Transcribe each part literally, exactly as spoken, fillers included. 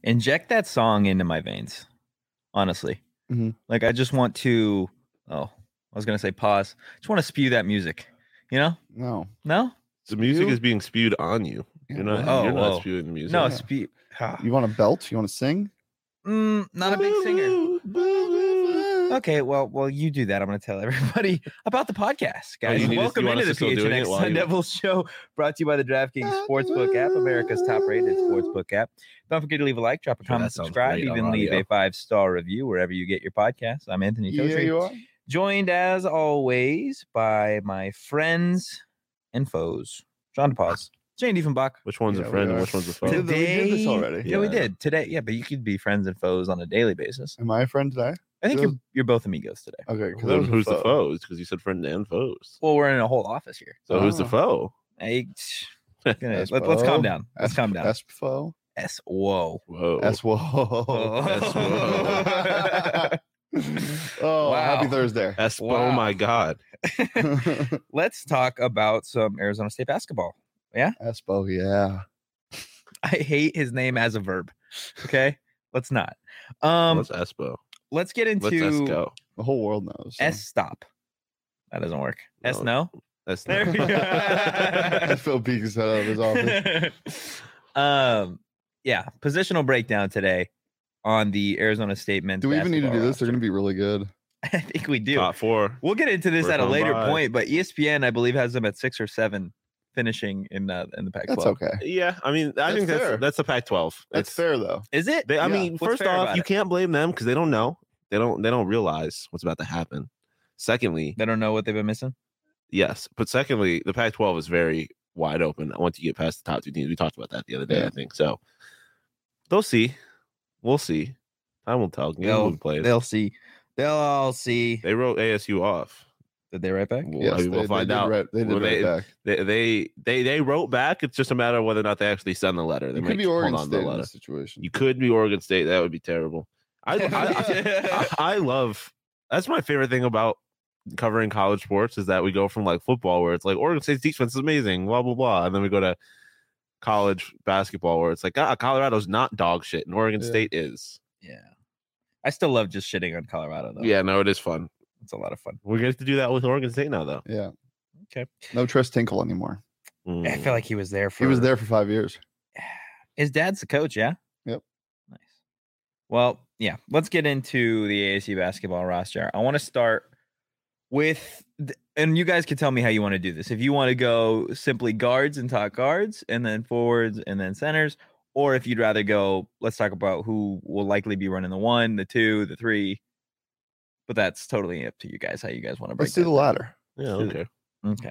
Inject that song into my veins. Honestly, mm-hmm. like I just want to. Oh, I was gonna say pause. Just want to spew that music. You know? No, no. The music Spew? is being spewed on you. You're not. Oh, you're not oh. spewing the music. No, Yeah. spew. You want to belt? You want to sing? Mm, not a big singer. Okay, well, well, you do that. I'm going to tell everybody about the podcast, guys. you need to- Welcome you want into us the to still doing P H N it X while Sun you- Devils show, brought to you by the DraftKings Sportsbook app, America's top-rated sportsbook app. Don't forget to leave a like, drop a Sure, comment, that sounds subscribe, great on even leave audio. a five-star review wherever you get your podcasts. I'm Anthony Yeah, Totri, you are. joined as always by my friends and foes, John DePaz, Jane Diefenbach. Which one's Yeah, a friend we and are. which one's a We foe? did, the- we did this already. Yeah, we Yeah. did today. Yeah, but you could be friends and foes on a daily basis. Am I a friend today? I think Those- you're you're both amigos today. Okay. 'cause Then that was a who's the foe. foes? Because you said friend and foes. Well, we're in a whole office here. So who's the Oh. foe? I, gonna, S let, let's foe. calm down. Let's S- calm down. S foe. S. Whoa. Whoa. S whoa. Whoa. Oh, Wow. happy Thursday. Espo, Wow. my God. Let's talk about some Arizona State basketball. Espo, yeah. I hate his name as a verb. Okay, let's not. Um, What's Espo? let's get Let's S into go. The whole world knows. so. S. Stop. That doesn't work. S. No. No. That's There not- we go. Phil Peaks head out of his office. um, yeah, positional breakdown today on the Arizona State men's. Do we even need to do basketball this? They're going to be really good. roster. I think we do. Top four. We'll get into this We're at a going later by. point, but E S P N, I believe, has them at six or seven, finishing in uh, in the Pac twelve. That's okay. Yeah, I mean, I That's think that's fair. that's the Pac twelve. That's It's- fair, though. Is it? They, I Yeah. mean, What's first fair off, about you it? can't blame them because they don't know. They don't. They don't realize what's about to happen. Secondly, They don't know what they've been missing. yes, but secondly, the Pac twelve is very wide open. Once you get past the top two teams, we talked about that the other day. Yeah. I think so. They'll see. We'll see. Time will tell. Game will be played. They'll see. They'll all see. They wrote A S U off. Did they right back? Well, Yes, I mean, they, we'll they find did out. Right, they did Well, right they- back. They, they they they wrote back. It's just a matter of whether or not they actually send the letter. They It might could be hold Oregon on to State the in letter. this situation. You could be Oregon State. That would be terrible. I I, I, I love. That's my favorite thing about covering college sports is that we go from like football where it's like Oregon State's defense is amazing, blah blah blah, and then we go to college basketball where it's like ah, Colorado's not dog shit and Oregon Yeah. State is. Yeah. I still love just shitting on Colorado, though. Yeah, no, it is fun. It's a lot of fun. We're going to do that with Oregon State now, though. Yeah. Okay. No Tris Tinkle anymore. Mm. I feel like he was there for. He was there for five years. His dad's the coach, yeah? Yep. Nice. Well, yeah. Let's get into the A S U basketball roster. I want to start with, th- and you guys can tell me how you want to do this. If you want to go simply guards and talk guards, and then forwards, and then centers, or if you'd rather go, let's talk about who will likely be running the one, the two, the three. But that's totally up to you guys how you guys want to break Let's do the that down. ladder. Yeah, okay. Okay.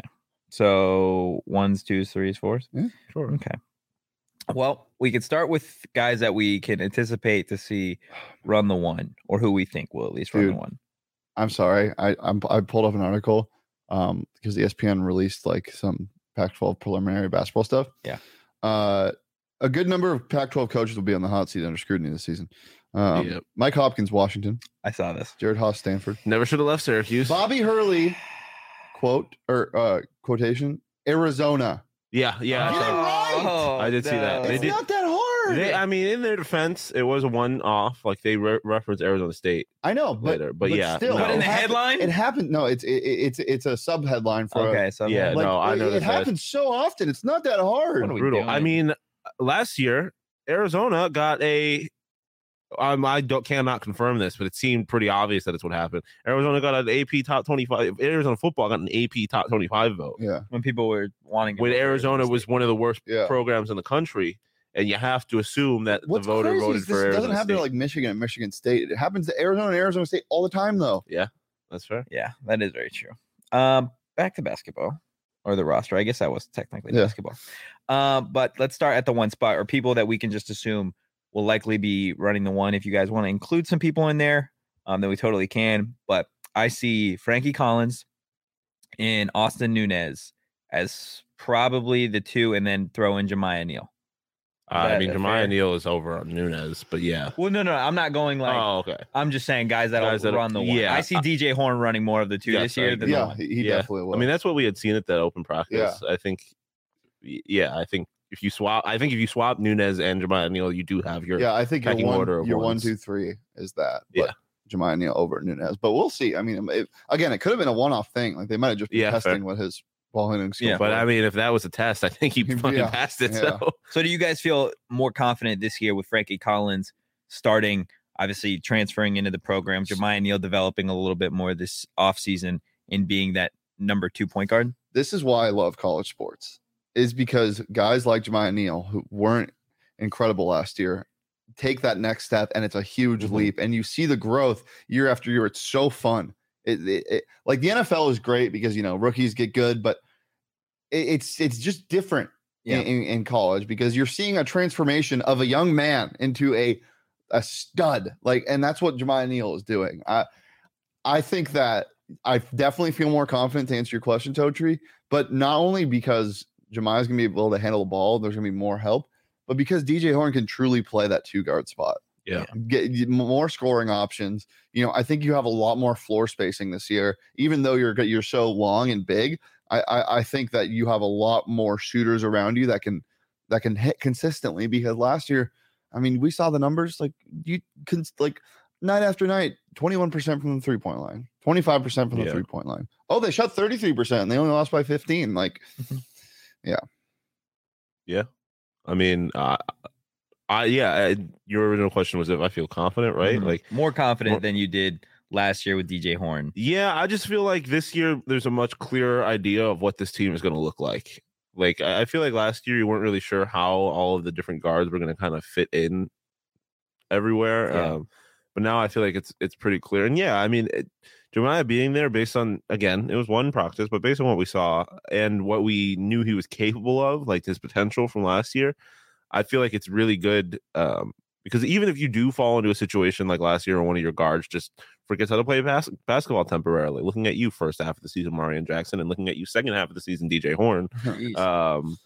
So ones, twos, threes, fours. Yeah, sure. Okay. Well, we could start with guys that we can anticipate to see run the one, or who we think will at least run Dude. the one. I'm sorry. I I'm, I pulled up an article um because E S P N released like some Pac twelve preliminary basketball stuff. Yeah. Uh, a good number of Pac twelve coaches will be on the hot seat under scrutiny this season. Um, Yep. Mike Hopkins, Washington. I saw this. Jared Haas, Stanford. Never should have left Syracuse. Bobby Hurley, quote or uh, quotation, Arizona. Yeah, yeah. I Get it saw- right! I did see that. They It's did- not that hard. They, I mean, in their defense, it was a one-off. Like they re- referenced Arizona State. I know, but later, but yeah, still, no. But in it the happened- headline? it happened. No, it's it, it's it's a sub headline for. Okay, so Yeah, like, no, I it- know it, that that's- happens so often. It's not that hard. What are we Brutal. I doing? mean, last year Arizona got a. Um, I don't cannot confirm this, but it seemed pretty obvious that it's what happened. Arizona got an A P top twenty-five. Arizona football got an A P top twenty-five vote. Yeah, when people were wanting, When Arizona was one of the worst Yeah. programs in the country, and you have to assume that what's the voter crazy voted is for this Arizona doesn't happen State. to like Michigan and Michigan State. It happens to Arizona and Arizona State all the time, though. That's fair. yeah, that is very true. Um, back to basketball or the roster. I guess that was technically Yeah. basketball. Um, but let's start at the one spot, or people that we can just assume will likely be running the one. If you guys want to include some people in there, um, then we totally can. But I see Frankie Collins and Austin Nunez as probably the two, and then throw in Jemiah Neal. Uh, I that mean, fair? Jemiah Neal is over on Nunez, but yeah. Well, no, no, I'm not going like. oh, okay. I'm just saying guys that'll Guys that'll- run the one. yeah. I see D J Horn running more of the two Yes, this I year agree. than the Yeah, one. he, he Yeah. definitely will. I mean, that's what we had seen at that open practice. Yeah. I think, yeah, I think if you swap, I think if you swap Nunez and Jeremiah Neal, you do have your Yeah, I think your pecking one, order of your one, ones. two, three is that. Yeah. But Jeremiah Neal over Nunez. But we'll see. I mean, it, again, it could have been a one-off thing. Like they might have just been Yeah, testing fair. what his ball handling skill Yeah, But was. I mean, if that was a test, I think he fucking Yeah, passed it. yeah. So So do you guys feel more confident this year with Frankie Collins starting, obviously transferring into the program, Jeremiah Neal developing a little bit more this offseason in being that number two point guard? This is why I love college sports, is because guys like Jeremiah Neal, who weren't incredible last year, take that next step, and it's a huge Mhm. leap. And you see the growth year after year. It's so fun. It, it, it- like the N F L is great because you know rookies get good, but it, it's it's just different Yeah. in, in, in college because you're seeing a transformation of a young man into a a stud. Like, and that's what Jeremiah Neal is doing. I I think that I definitely feel more confident to answer your question, Totri, but not only because Jeremiah's gonna be able to handle the ball, there's gonna be more help, but because D J Horn can truly play that two guard spot. yeah, Get more scoring options. You know, I think you have a lot more floor spacing this year, even though you're you're so long and big. I, I I think that you have a lot more shooters around you that can that can hit consistently. Because last year, I mean, we saw the numbers like you can like night after night, twenty-one percent from the three point line, twenty-five percent from the Yeah. three point line. Oh, they shot thirty-three percent and they only lost by fifteen. Like, I mean, uh, I yeah. I, your original question was if I feel confident, right? Mhm. Like, more confident more- than you did last year with D J Horn. yeah, I just feel like this year there's a much clearer idea of what this team is going to look like. Like, I I feel like last year you weren't really sure how all of the different guards were going to kind of fit in everywhere. Yeah. Um, but now I feel like it's it's pretty clear. And yeah, I mean, it, Jeremiah being there based on, again, it was one practice, but based on what we saw and what we knew he was capable of, like his potential from last year, I feel like it's really good. Um, because even if you do fall into a situation like last year, or one of your guards just forgets how to play bas- basketball temporarily, looking at you first half of the season, Marion Jackson, and looking at you second half of the season, D J Horn, Jeez. um,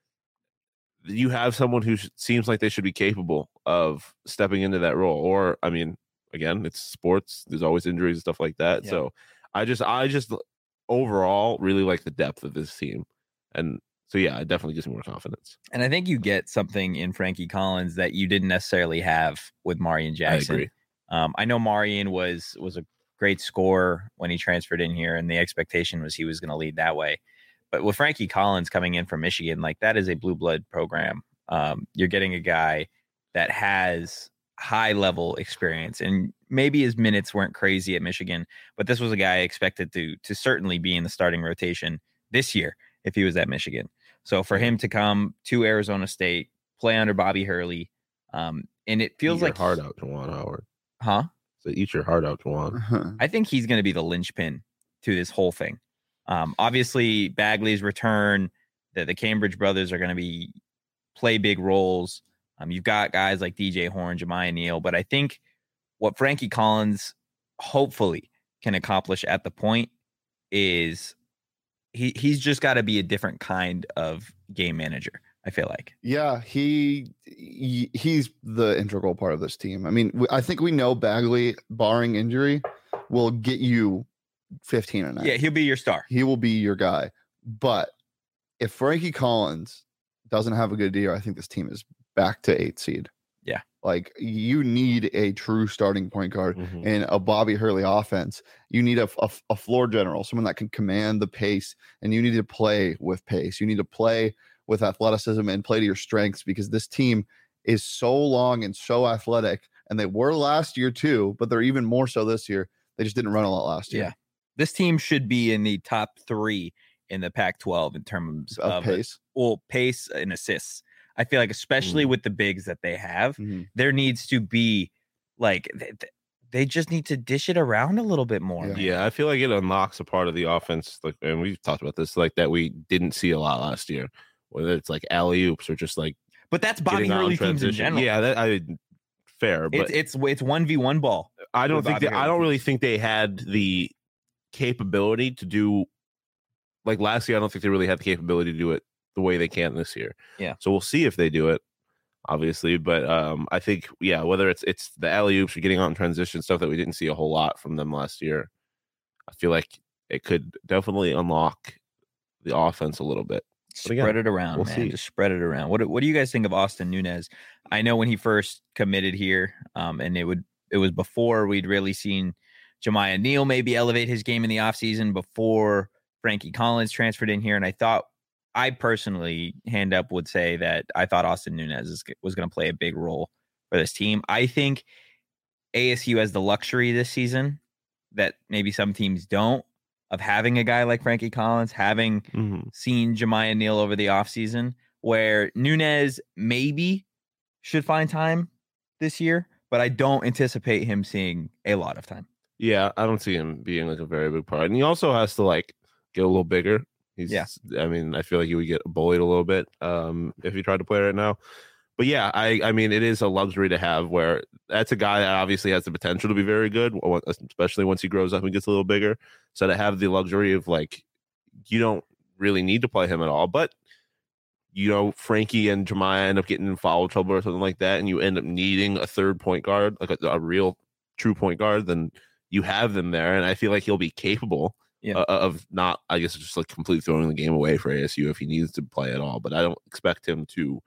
you have someone who sh- seems like they should be capable of stepping into that role. Or, I mean, again, it's sports. There's always injuries and stuff like that. Yeah. So I just, I just overall really like the depth of this team. And so, yeah, it definitely gives me more confidence. And I think you get something in Frankie Collins that you didn't necessarily have with Marion Jackson. I agree. Um, I know Marion was was a great scorer when he transferred in here, and the expectation was he was going to lead that way. But with Frankie Collins coming in from Michigan, like that is a blue blood program. Um, you're getting a guy that has high level experience, and maybe his minutes weren't crazy at Michigan, but this was a guy expected to to certainly be in the starting rotation this year if he was at Michigan. So for him to come to Arizona State, play under Bobby Hurley, um, and it feels Eat your like heart out, Juwan Howard. huh? So eat your heart out, Juwan. I think he's going to be the linchpin to this whole thing. Um, obviously, Bagley's return, the, the Cambridge brothers are going to be play big roles. Um, you've got guys like D J Horn, Jeremiah Neal, but I think what Frankie Collins hopefully can accomplish at the point is he he's just got to be a different kind of game manager. I feel like. Yeah, he, he he's the integral part of this team. I mean, I think we know Bagley, barring injury, will get you fifteen a night. Yeah, he'll be your star. He will be your guy. But if Frankie Collins doesn't have a good year, I think this team is back to eight seed. Yeah. Like you need a true starting point guard Mhm. in a Bobby Hurley offense. You need a, a, a floor general, someone that can command the pace, and you need to play with pace. You need to play with athleticism and play to your strengths, because this team is so long and so athletic, and they were last year too, but they're even more so this year. They just didn't run a lot last year. Yeah. This team should be in the top three in the Pac twelve in terms Of of, pace. well, pace and assists. I feel like, especially Mm. with the bigs that they have, Mhm. there needs to be like they, they just need to dish it around a little bit more. Yeah. man. Yeah, I feel like it unlocks a part of the offense, like, and we've talked about this, like that we didn't see a lot last year. Whether it's like alley oops or just like But that's Bobby getting out Hurley in teams in transition. general. Yeah, that I fair, but It's it's it's one v one ball. I don't with think Bobby that, I Hurley don't really teams. think they had the capability to do like last year. I don't think they really had the capability to do it the way they can this year. Yeah. So we'll see if they do it, obviously. But um, I think yeah, whether it's it's the alley oops or getting out in transition stuff that we didn't see a whole lot from them last year, I feel like it could definitely unlock the offense a little bit. But again, Spread it around, we'll man. see. Just spread it around. What What do you guys think of Austin Nunez? I know when he first committed here, um, and it would it was before we'd really seen Jemiah Neal maybe elevate his game in the offseason before Frankie Collins transferred in here, and I thought I personally, hand up, would say that I thought Austin Nunez is, was going to play a big role for this team. I think A S U has the luxury this season that maybe some teams don't, of having a guy like Frankie Collins, having Mm-hmm. seen Jemiah Neal over the offseason, where Nunez maybe should find time this year, but I don't anticipate him seeing a lot of time. Yeah, I don't see him being like a very big part. And he also has to like get a little bigger. He's, Yeah. I mean, I feel like he would get bullied a little bit um, if he tried to play right now. But yeah, I, I mean, it is a luxury to have where that's a guy that obviously has the potential to be very good, especially once he grows up and gets a little bigger. So to have the luxury of like, you don't really need to play him at all. But, you know, Frankie and Jemiah end up getting in foul trouble or something like that, and you end up needing a third point guard, like a, a real true point guard, then you have them there. And I feel like he'll be capable Yeah. uh, of not, I guess, just like completely throwing the game away for A S U if he needs to play at all. But I don't expect him to.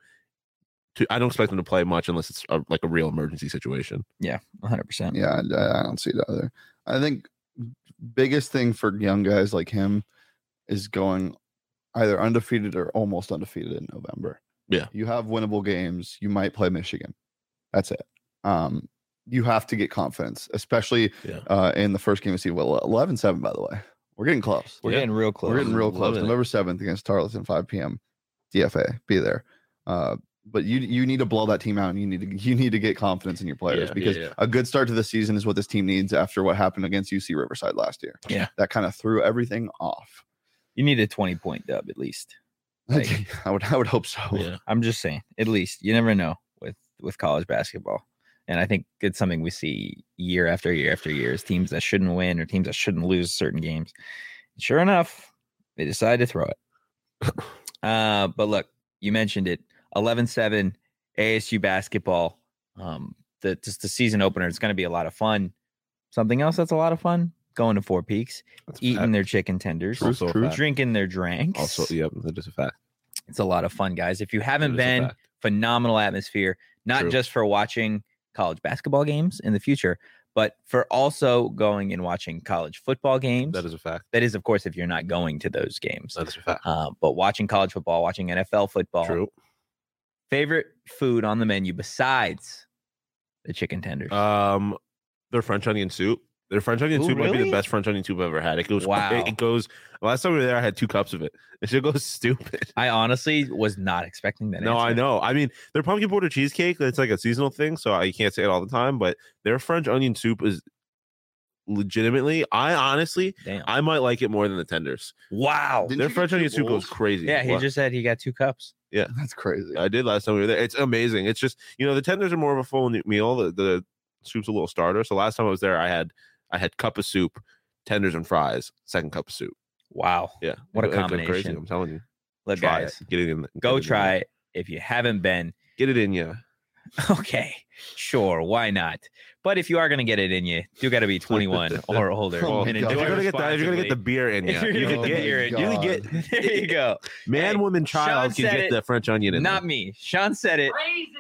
To, I don't expect him to play much unless it's a, like a real emergency situation. Yeah, one hundred percent. Yeah, I, I don't see it either. I think biggest thing for young guys like him is going either undefeated or almost undefeated in November. Yeah. You have winnable games. You might play Michigan. That's it. Um, you have to get confidence, especially Yeah. uh, in the first game of season. Well, eleven seven, by the way. We're getting close. We're Yeah. getting real close. We're getting real close. Loving it. November seventh against Tarleton, five p.m. D F A. Be there. Uh, but you you need to blow that team out, and you need to you need to get confidence in your players Yeah, because yeah, yeah. a good start to the season is what this team needs after what happened against U C Riverside last year. Yeah. That kind of threw everything off. You need a twenty point dub at least. Like- I would I would hope so. Yeah. I'm just saying, at least. You never know with with college basketball. And I think it's something we see year after year after year is teams that shouldn't win or teams that shouldn't lose certain games. Sure enough, they decide to throw it. uh, but look, you mentioned it. eleven seven A S U basketball. Um, the just the season opener. It's going to be a lot of fun. Something else that's a lot of fun: going to Four Peaks, That's a eating fact. their chicken tenders, Also a fact. drinking their drinks. Also, yep, that is a fact. It's a lot of fun, guys. If you That haven't is a been, fact. phenomenal atmosphere, not True. just for watching college basketball games in the future, but for also going and watching college football games. That is a fact. That is, of course, if you're not going to those games. That is a fact. Uh, but watching college football, watching N F L football. True. Favorite food on the menu besides the chicken tenders? Um, their French onion soup. Their French onion Ooh, soup might be really? the best French onion soup I've ever had. It goes. Wow. It, it goes. Last time we were there, I had two cups of it. It should go stupid. I honestly was not expecting that. No, I answer. know. I mean, their pumpkin border cheesecake, it's like a seasonal thing, so I can't say it all the time, but their French onion soup is legitimately, I honestly, Damn. I might like it more than the tenders. Wow. Didn't Their you get French two onion soup goes bowls? crazy. Yeah, he What? just said he got two cups. That's crazy. I did last time we were there. It's amazing. It's just, you know, the tenders are more of a full meal. The, the soup's a little starter. So last time I was there, I had I had cup of soup, tenders and fries, second cup of soup. Wow. Yeah. What a It goes combination. Crazy, I'm telling you. Look, Try guys, it. Get it in. go get it in try you. it if you haven't been. Get it in you. Okay, sure, why not? But if you are going to get it in you, you got to be twenty-one or older. Oh, and God. If enjoy you're gonna get that, if you're gonna get the responsibly. beer in you, If you're you gonna can get the get beer in you can God. get there you go. man, Hey, woman, child Sean can said get it, the French onion in Not there. me. Sean said it.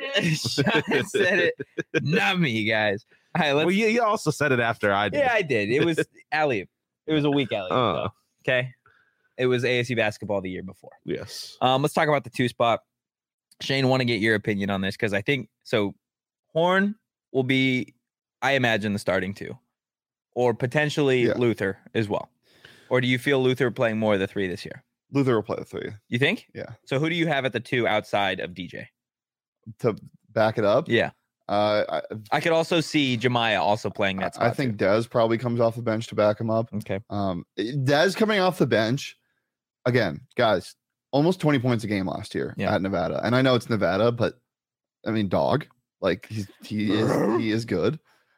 Sean said it. Not me, guys. All right, let's. Well, you, you also said it after I did. yeah, I did. It was alley. It was a week alley. Uh. Okay, it was A S U basketball the year before. Yes. Um, let's talk about the two spot. Shane, want to get your opinion on this because I think so. Horn will be, I imagine, the starting two, or potentially Yeah. Luther as well. Or do you feel Luther playing more of the three this year? Luther will play the three. You think? Yeah. So who do you have at the two outside of D J? To back it up, Yeah, uh, I, I could also see Jemiah also playing that spot. I think Dez probably comes off the bench to back him up. too. Okay. Um, Dez coming off the bench again, guys. Almost twenty points a game last year Yeah. at Nevada, and I know it's Nevada, but I mean, dog, like he's he is he is good.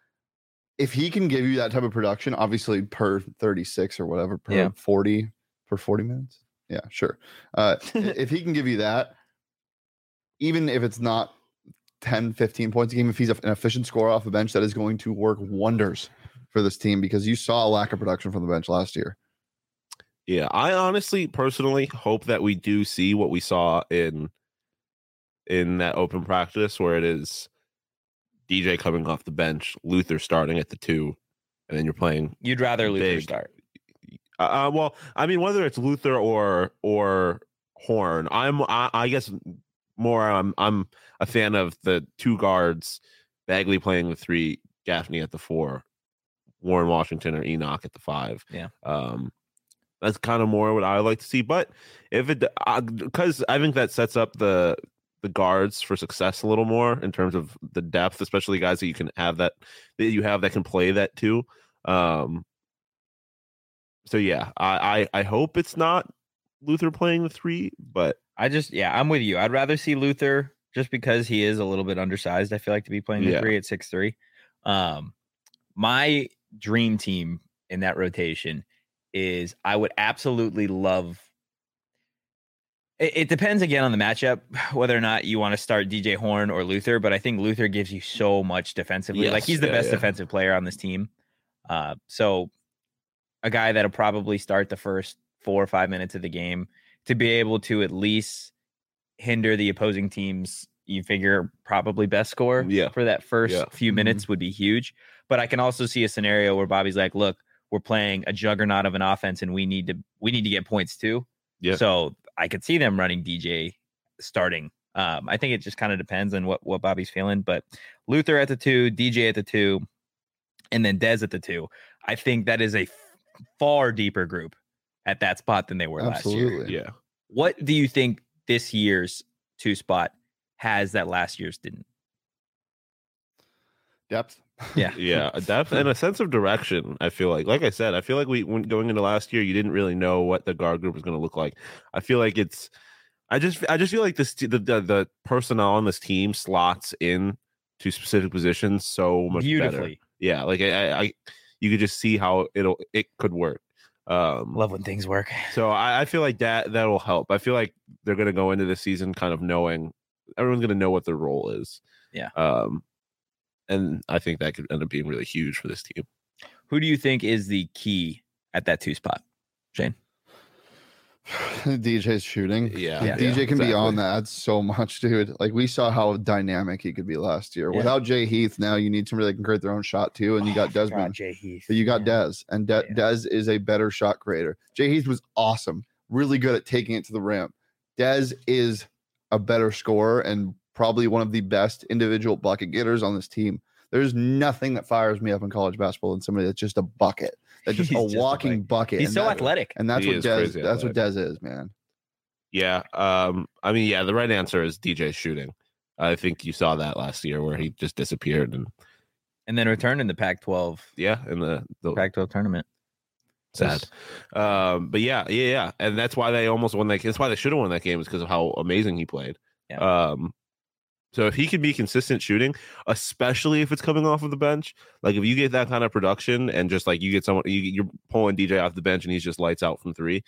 If he can give you that type of production, obviously per thirty-six or whatever, per Yeah. forty per forty minutes, yeah, sure. Uh, i- if he can give you that, even if it's not ten, fifteen points a game, if he's an efficient scorer off the bench, that is going to work wonders for this team because you saw a lack of production from the bench last year. Yeah, I honestly, personally hope that we do see what we saw in in that open practice, where it is D J coming off the bench, Luther starting at the two, and then you're playing. You'd rather Luther big. start. Uh, well, I mean, whether it's Luther or or Horn, I'm I, I guess more. I'm I'm a fan of the two guards, Bagley playing the three, Gaffney at the four, Warren Washington or Enoch at the five. Yeah. Um, that's kind of more what I like to see. But if it, because I think that sets up the the guards for success a little more in terms of the depth, especially guys that you can have that that you have that can play that too. Um, so yeah, I, I I hope it's not Luther playing the three, but I just yeah, I'm with you. I'd rather see Luther just because he is a little bit undersized. I feel like to be playing the Yeah. three at six three. Um, my dream team in that rotation is I would absolutely love. It, it depends again on the matchup whether or not you want to start D J Horn or Luther, but I think Luther gives you so much defensively. Yes, like he's the yeah, best yeah. defensive player on this team. Uh, so a guy that'll probably start the first four or five minutes of the game to be able to at least hinder the opposing team's, you figure, probably best score Yeah. for that first Yeah. few minutes would be huge. But I can also see a scenario where Bobby's like, look, we're playing a juggernaut of an offense and we need to we need to get points too. Yeah. So I could see them running D J starting. Um, I think it just kind of depends on what, what Bobby's feeling. But Luther at the two, D J at the two, and then Dez at the two. I think that is a f- far deeper group at that spot than they were last year. Absolutely. yeah. What do you think this year's two spot has that last year's didn't? Depth. Yeah. Yeah, a depth and a sense of direction. I feel like, like I said, I feel like we when going into last year, you didn't really know what the guard group was going to look like. I feel like it's, I just, I just feel like this the, the the personnel on this team slots in to specific positions so much Beautifully. better. Yeah, like I, I, you could just see how it'll it could work. Um, Love when things work. so I, I feel like that that will help. I feel like they're going to go into the season kind of knowing everyone's going to know what their role is. Yeah. Um, and I think that could end up being really huge for this team. Who do you think is the key at that two spot, Shane? D J's shooting. Yeah, Yeah. D J can exactly. be on that so much, dude. Like we saw how dynamic he could be last year. Yeah. Without Jay Heath, now you need somebody that can create their own shot too, and you got Desmond. Jay Heath. But you got Yeah. Dez, and De- Yeah. Dez is a better shot creator. Jay Heath was awesome, really good at taking it to the rim. Dez is a better scorer and probably one of the best individual bucket getters on this team. There's nothing that fires me up in college basketball than somebody that's just a bucket, that's just He's a just a walking bucket. He's and so that- athletic. and that's He what is Dez. crazy That's what Dez is, man. Yeah. Um, I mean, yeah, the right answer is D J shooting. I think you saw that last year where he just disappeared and And then returned in the Pac twelve yeah, in the, the Pac twelve tournament. sad. Um, but yeah, yeah, yeah. And that's why they almost won that. That's why they should have won that game, is because of how amazing he played. Yeah. Um, so if he can be consistent shooting, especially if it's coming off of the bench, like if you get that kind of production and just like you get someone, you, you're pulling D J off the bench and he's just lights out from three,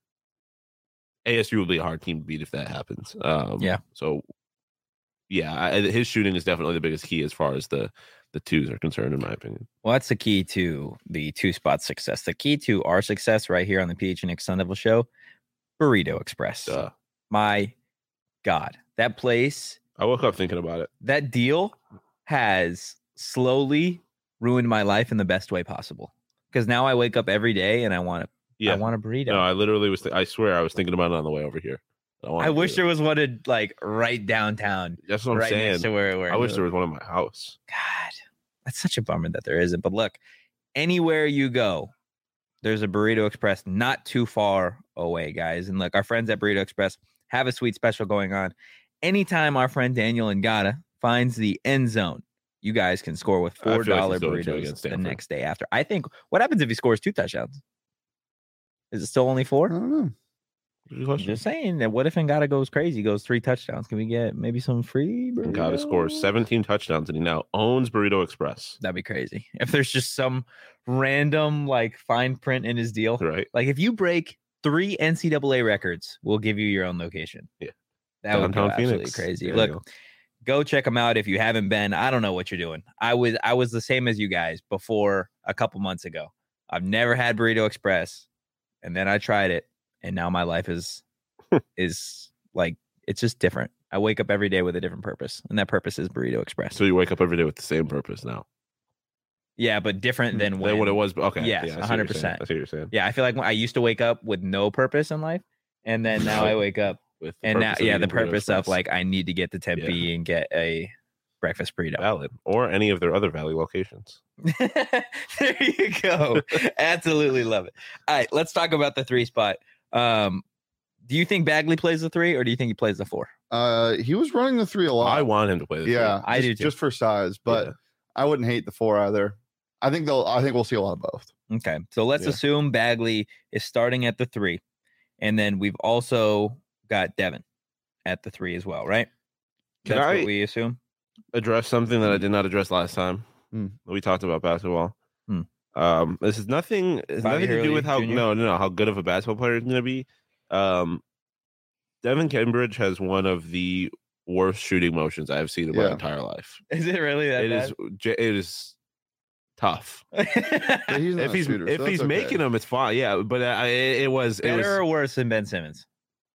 A S U will be a hard team to beat if that happens. Um, Yeah. So yeah, I, his shooting is definitely the biggest key as far as the the twos are concerned, in my opinion. Well, that's the key to the two spot success. The key to our success right here on the P H N X Sun Devil Show, Burrito Express. Uh, My God, that place, I woke up thinking about it. that deal has slowly ruined my life in the best way possible. Because now I wake up every day and I want to. Yeah. I want a burrito. No, I literally was. Th- I swear, I was thinking about it on the way over here. I, wanted I to wish do there it. was one in, like right downtown, That's what I'm right saying. next to where we're. I wish there was one in my house. God, that's such a bummer that there isn't. But look, anywhere you go, there's a Burrito Express not too far away, guys. And look, our friends at Burrito Express have a sweet special going on. Anytime our friend Daniel Ngata finds the end zone, you guys can score with I feel four like dollar he's going to burritos against the Stanford. next day after. I think. What happens if he scores two touchdowns? Is it still only I four? don't know. Good question. Just saying that. What if Ngata goes crazy, goes three touchdowns? Can we get maybe some free? Ngata scores burritos? seventeen touchdowns and he now owns Burrito Express. That'd be crazy. If there's just some random like fine print in his deal, Right? like if you break three N C double A records, we'll give you your own location. Yeah. That would go Downtown absolutely Phoenix. crazy. There you Look, go. go check them out if you haven't been. I don't know what you're doing. I was I was the same as you guys before a couple months ago. I've never had Burrito Express, and then I tried it, and now my life is is like it's just different. I wake up every day with a different purpose, and that purpose is Burrito Express. So you wake up every day with the same purpose now. Yeah, but different than when Than what it was. Okay. Yes, yeah, I see what one hundred you're saying. percent. I see what you're saying. Yeah, I feel like when I used to wake up with no purpose in life, and then now I wake up With the and now purpose of yeah, the eating Burrito purpose of Express. like I need to get to Tempe Yeah. and get a breakfast burrito. Valid, or any of their other Valley locations. There you go. Absolutely love it. All right, let's talk about the three spot. Um, do you think Bagley plays the three, or do you think he plays the four? Uh, he was running the three a lot. I want him to play. The yeah, I just, do too. just for size, but Yeah. I wouldn't hate the four either. I think they'll. I think we'll see a lot of both. Okay, so let's Yeah. assume Bagley is starting at the three, and then we've also got Devin at the three as well, right? Can That's I- what we assume. address something that I did not address last time. Hmm. We talked about basketball. Hmm. Um, this is nothing. It's Bobby nothing to do Hurley with how Junior? no, no, no, how good of a basketball player he's going to be. Um, Devin Cambridge has one of the worst shooting motions I've seen in my Yeah. entire life. Is it really that It is. j- It is tough. But he's not If a he's shooter, so if that's he's okay. making them, it's fine. Yeah, but uh, it, it was it Better was. or worse than Ben Simmons?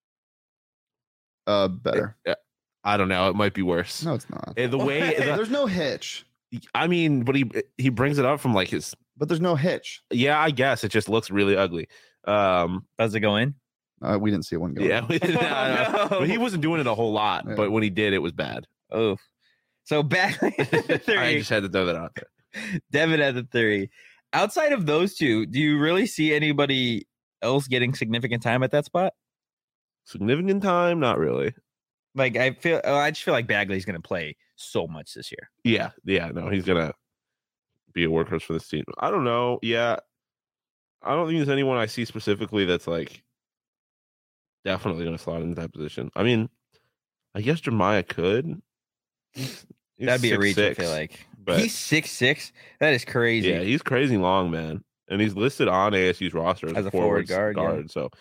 Uh, better. I don't know. It might be worse. No, it's not. Uh, The way the- There's no hitch, I mean, but he he brings it up from like his. but there's no hitch. Yeah, I guess it just looks really ugly. Um, Does it go in? Uh, we didn't see one go. yeah, in. no, no. But he wasn't doing it a whole lot. Yeah. But when he did, it was bad. Oh, so Bagley at the I three, just had to throw that out there. Devin at the three. Outside of those two, do you really see anybody else getting significant time at that spot? Significant time, not really. Like I feel, oh, I just feel like Bagley's going to play so much this year. Yeah, yeah, no, he's gonna be a workhorse for this team. I don't know. Yeah, I don't think there's anyone I see specifically that's like definitely gonna slot into that position. I mean, I guess Jeremiah could. He's- he's That'd be a reach. six I feel six, like but he's six six. That is crazy. yeah, he's crazy long, man, and he's listed on A S U's roster as, As a a forward forward guard, yeah. So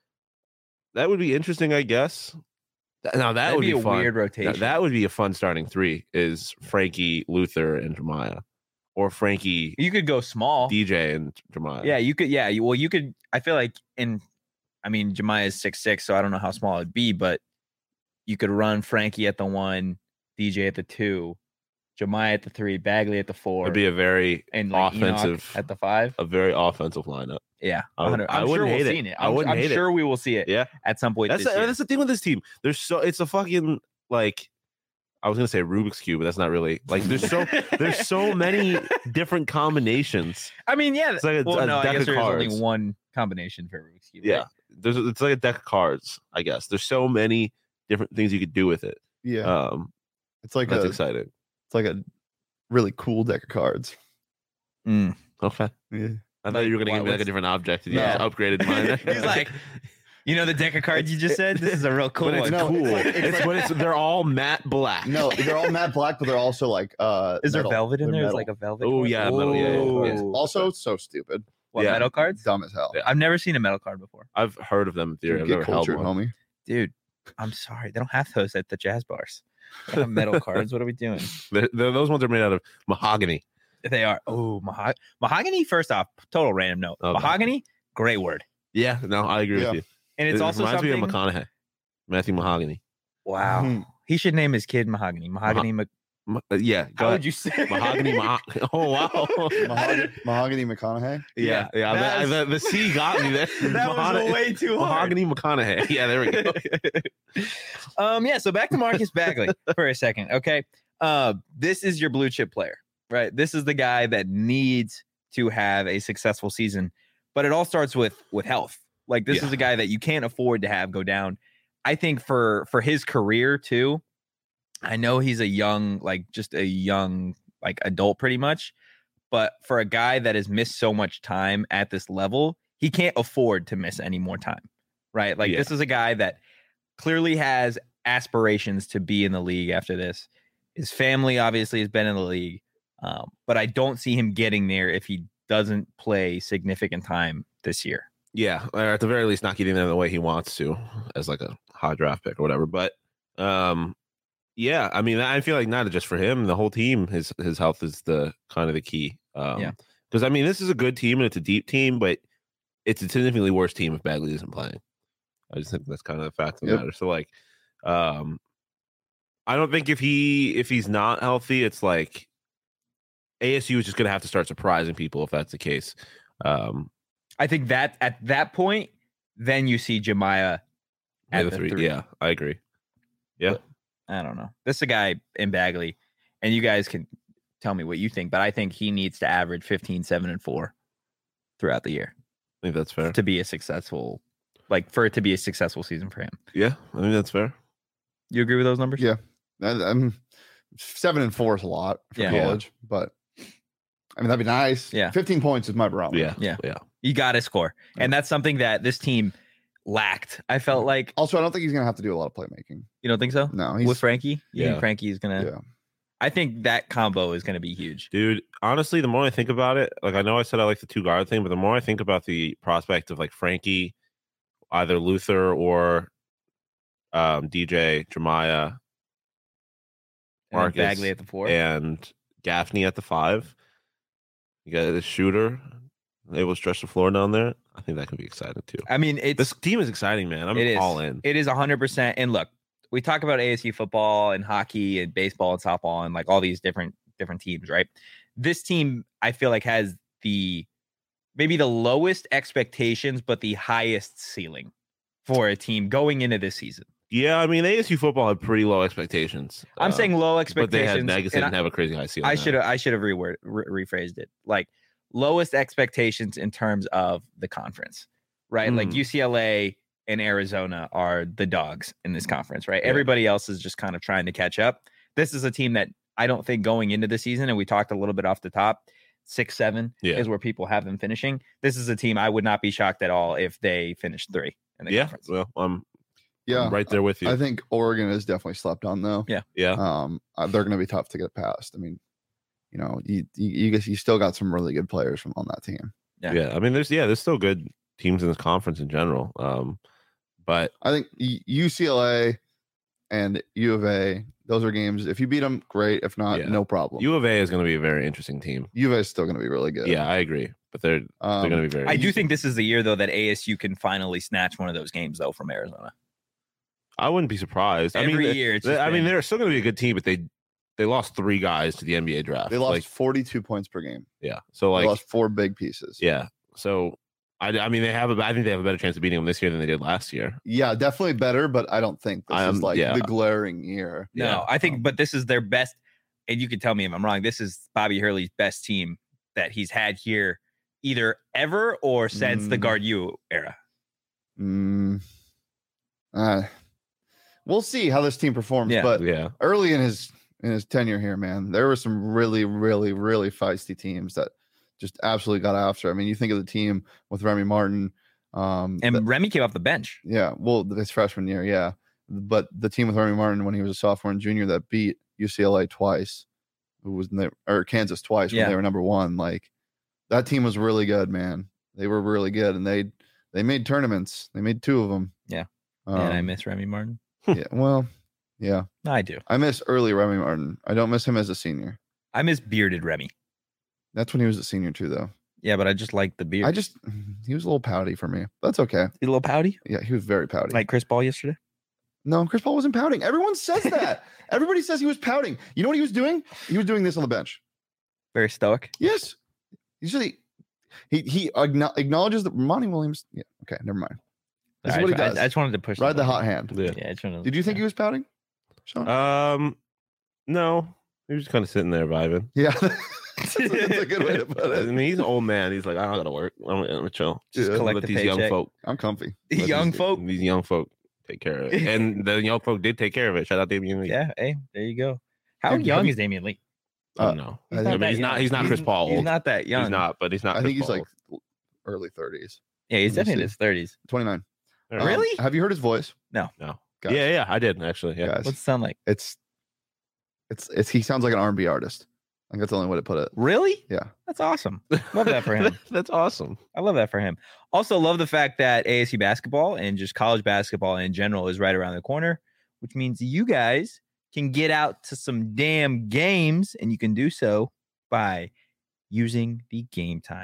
that would be interesting, I guess. Th- Now that That'd would be be, a fun. weird Now, rotation. that would be a fun starting three: is Frankie, Luther, and Jeremiah, or Frankie, You could go small. D J, and Jeremiah. Yeah, you could. Yeah, you, well, you could. I feel like in, I mean, Jemiah is six six, so I don't know how small it'd be, but you could run Frankie at the one, D J at the two, Jemiah at the three, Bagley at the four, it'd be a very and like Enoch offensive, at the five. a very offensive lineup. Yeah, I would- one hundred I I'm sure wouldn't we'll hate it. see it. I I'm, wouldn't I'm hate it. sure we will see it Yeah, at some point that's this the, year. that's the thing with this team. There's so it's a fucking like I was gonna say Rubik's cube, but that's not really like there's so there's so many different combinations. I mean, yeah. It's like a- well, a no, I deck guess of there's only cards. one combination for Rubik's Cube. Yeah, right? there's it's like a deck of cards. I guess there's so many different things you could do with it. Yeah, Um, it's like that's a exciting. it's like a really cool deck of cards. Mm. Okay, Yeah. I thought you were gonna Why- give me like a what's- different object. And you No. just upgraded mine. He's like, you know, the deck of cards you just said. This is a real cool but it's one. No, cool. it's like- It's, it's like- but it's they're all matte black. No, they're all matte black, but they're also like uh. Is there metal. velvet in They're there? It's metal. like a velvet. Oh, card? yeah, metal, yeah, yeah, yeah. Ooh. Also, so stupid, What, Yeah. metal cards? dumb as hell. Yeah. I've never seen a metal card before. I've heard of them in theory. Dude, I've get never held cultured, one. homie. Dude, I'm sorry. They don't have those at the jazz bars. They have metal cards. What are we doing? They're- they're- those ones are made out of mahogany. They are. Oh, maho- mahogany. First off, total random note. Okay. Mahogany, great word. Yeah, no, I agree Yeah. with you. And it's it also reminds something. me of McConaughey, Matthew Mahogany. Wow. Mhm. He should name his kid Mahogany. Mahogany. Mc- Ma- uh, yeah, go How ahead. would you say Mahogany? Maho- oh wow. Mahogany, Mahogany McConaughey. Yeah, yeah. That the, was- the, the C got me there. That Mahogany- was way too hard. Mahogany McConaughey. Yeah, there we go. um, yeah. So back to Marcus Bagley for a second. Okay. Uh, this is your blue chip player, right? This is the guy that needs to have a successful season, but it all starts with with health. Like this Yeah. is a guy that you can't afford to have go down. I think for for his career too. I know he's a young, like just a young, like adult pretty much, but for a guy that has missed so much time at this level, he can't afford to miss any more time, right? Like Yeah. this is a guy that clearly has aspirations to be in the league after this. His family obviously has been in the league, um, but I don't see him getting there if he doesn't play significant time this year. Yeah, or at the very least, not getting there the way he wants to, as like a high draft pick or whatever. But um, yeah, I mean, I feel like not just for him, the whole team, his his health is the kind of the key. Um, Yeah. because I mean, this is a good team and it's a deep team, but it's a significantly worse team if Bagley isn't playing. I just think that's kind of the fact of the Yep. matter. So like, um, I don't think if he if he's not healthy, it's like A S U is just going to have to start surprising people if that's the case. Um, I think that at that point, then you see Jemiah at at the the three. three. Yeah, I agree. Yeah. But I don't know. This is a guy in Bagley, and you guys can tell me what you think, but I think he needs to average fifteen, seven, and four throughout the year I think that's fair. to be a successful, like for it to be a successful season for him. Yeah, I think that's fair. You agree with those numbers? Yeah. And, um, seven and four is a lot for Yeah. college, but I mean that'd be nice. Yeah. fifteen points is my barometer. Yeah, Yeah. yeah. You got to score. And that's something that this team lacked. I felt like, Also, I don't think he's gonna have to do a lot of playmaking. you don't think so? No, he's With Frankie? You Yeah. think Frankie's going to, yeah. I think that combo is going to be huge. Dude, honestly, the more I think about it, like I know I said I like the two guard thing, but the more I think about the prospect of like Frankie, either Luther or um, D J, Jemiah, And Marcus, Bagley at the four. and Gaffney at the five. You got the shooter able to stretch the floor down there. I think that could be exciting too. I mean, it's This team is exciting, man. I'm It is. all in. It is one hundred percent. And look, we talk about A S U football and hockey and baseball and softball and like all these different different teams, right? This team, I feel like, has the maybe the lowest expectations, but the highest ceiling for a team going into this season. Yeah, I mean, A S U football had pretty low expectations. I'm uh, saying low but they had expectations. negative and didn't I- have a crazy high ceiling. I on should it. have I should have reword re- rephrased it. Like lowest expectations in terms of the conference, right? Like Mm. U C L A and Arizona are the dogs in this conference, right? Yeah. Everybody else is just kind of trying to catch up. This is a team that I don't think going into the season, and we talked a little bit off the top, six, seven Yeah. is where people have them finishing. This is a team I would not be shocked at all if they finished three in the Yeah, conference. well, I'm, Yeah. I'm right there with you. I think Oregon is definitely slept on though. Yeah. yeah, Um, uh, they're going to be tough to get past. I mean, you know, you you you, guys, you still got some really good players from on that team. Yeah. yeah. I mean, there's yeah, there's still good teams in this conference in general. Um, but I think U- UCLA and U of A, those are games. If you beat them, great. If not, Yeah. no problem. U of A is going to be a very interesting team. U of A is still going to be really good. Yeah, I agree. But they're um, they're going to be very. I do think this is the year though that A S U can finally snatch one of those games though from Arizona. I wouldn't be surprised. I Every mean, they- year, it's they- just I mean, been- they're still going to be a good team, but they they lost three guys to the N B A draft. They lost Like, forty-two points per game. yeah. So They like, lost four big pieces. yeah. So I, I mean, they have a. I think they have a better chance of beating them this year than they did last year. Yeah, definitely better, but I don't think this Um, is like yeah. the glaring year. No, Yeah. I think, but this is their best, and you can tell me if I'm wrong. This is Bobby Hurley's best team that he's had here, either ever or since the Mm. Guard U era. Mm, uh, we'll see how this team performs. Yeah. But Yeah. early in his in his tenure here, man, there were some really, really, really feisty teams that just absolutely got after. I mean, you think of the team with Remy Martin, um, And that- Remy came off the bench. yeah, well, his freshman year, yeah, but the team with Remy Martin when he was a sophomore and junior that beat U C L A twice, who was in the, or Kansas twice when Yeah. they were number one. Like that team was really good, man. They were really good, and they they made tournaments. They made two of them. Yeah. um, and I miss Remy Martin. yeah, well, yeah. I do. I miss early Remy Martin. I don't miss him as a senior. I miss bearded Remy. That's when he was a senior too, though. Yeah, but I just like the beard. I just he was a little pouty for me. That's okay. He's a little pouty, Yeah, he was very pouty. like Chris Paul yesterday. no, Chris Paul wasn't pouting. Everyone says that. Everybody says he was pouting. You know what he was doing? He was doing this on the bench. Very stoic. Yes. Usually he he acknow- acknowledges that Monty Williams. Yeah. Okay. Never mind. This is I, what he I- does. I just wanted to push Ride the button. hot hand. Yeah. Yeah, I just wanted to- Did you think he was pouting? Sean? Um, no, he was just kind of sitting there vibing. yeah. that's, a, that's a good way to put I it. mean, he's an old man. He's like, I don't gotta work. I'm, I'm gonna chill. Just Let collect the these young paycheck. folk. I'm comfy. let young these, folk. These young folk take care of it, and the young folk did take care of it. Shout out Damian Lee. Yeah, hey, there you go. How Dude, have young you- is Damian Lee? I Uh, don't know. I I, think- mean, that he's not. young. He's not Chris Paul. He's old. not that young. He's not, but he's not. I Chris think he's Paul like old. early thirties. Yeah, he's Let me definitely in see. his thirties. twenty-nine. All right. Really? Um, have you heard his voice? No. Guys. Yeah, yeah, I did actually. Yeah. Guys, What's it sound like? it's it's it's he sounds like an R and B artist. I think that's the only way to put it. Really? Yeah. That's awesome. Love that for him. That's awesome. I love that for him. Also, love the fact that A S U basketball and just college basketball in general is right around the corner, which means you guys can get out to some damn games, and you can do so by using the Game Time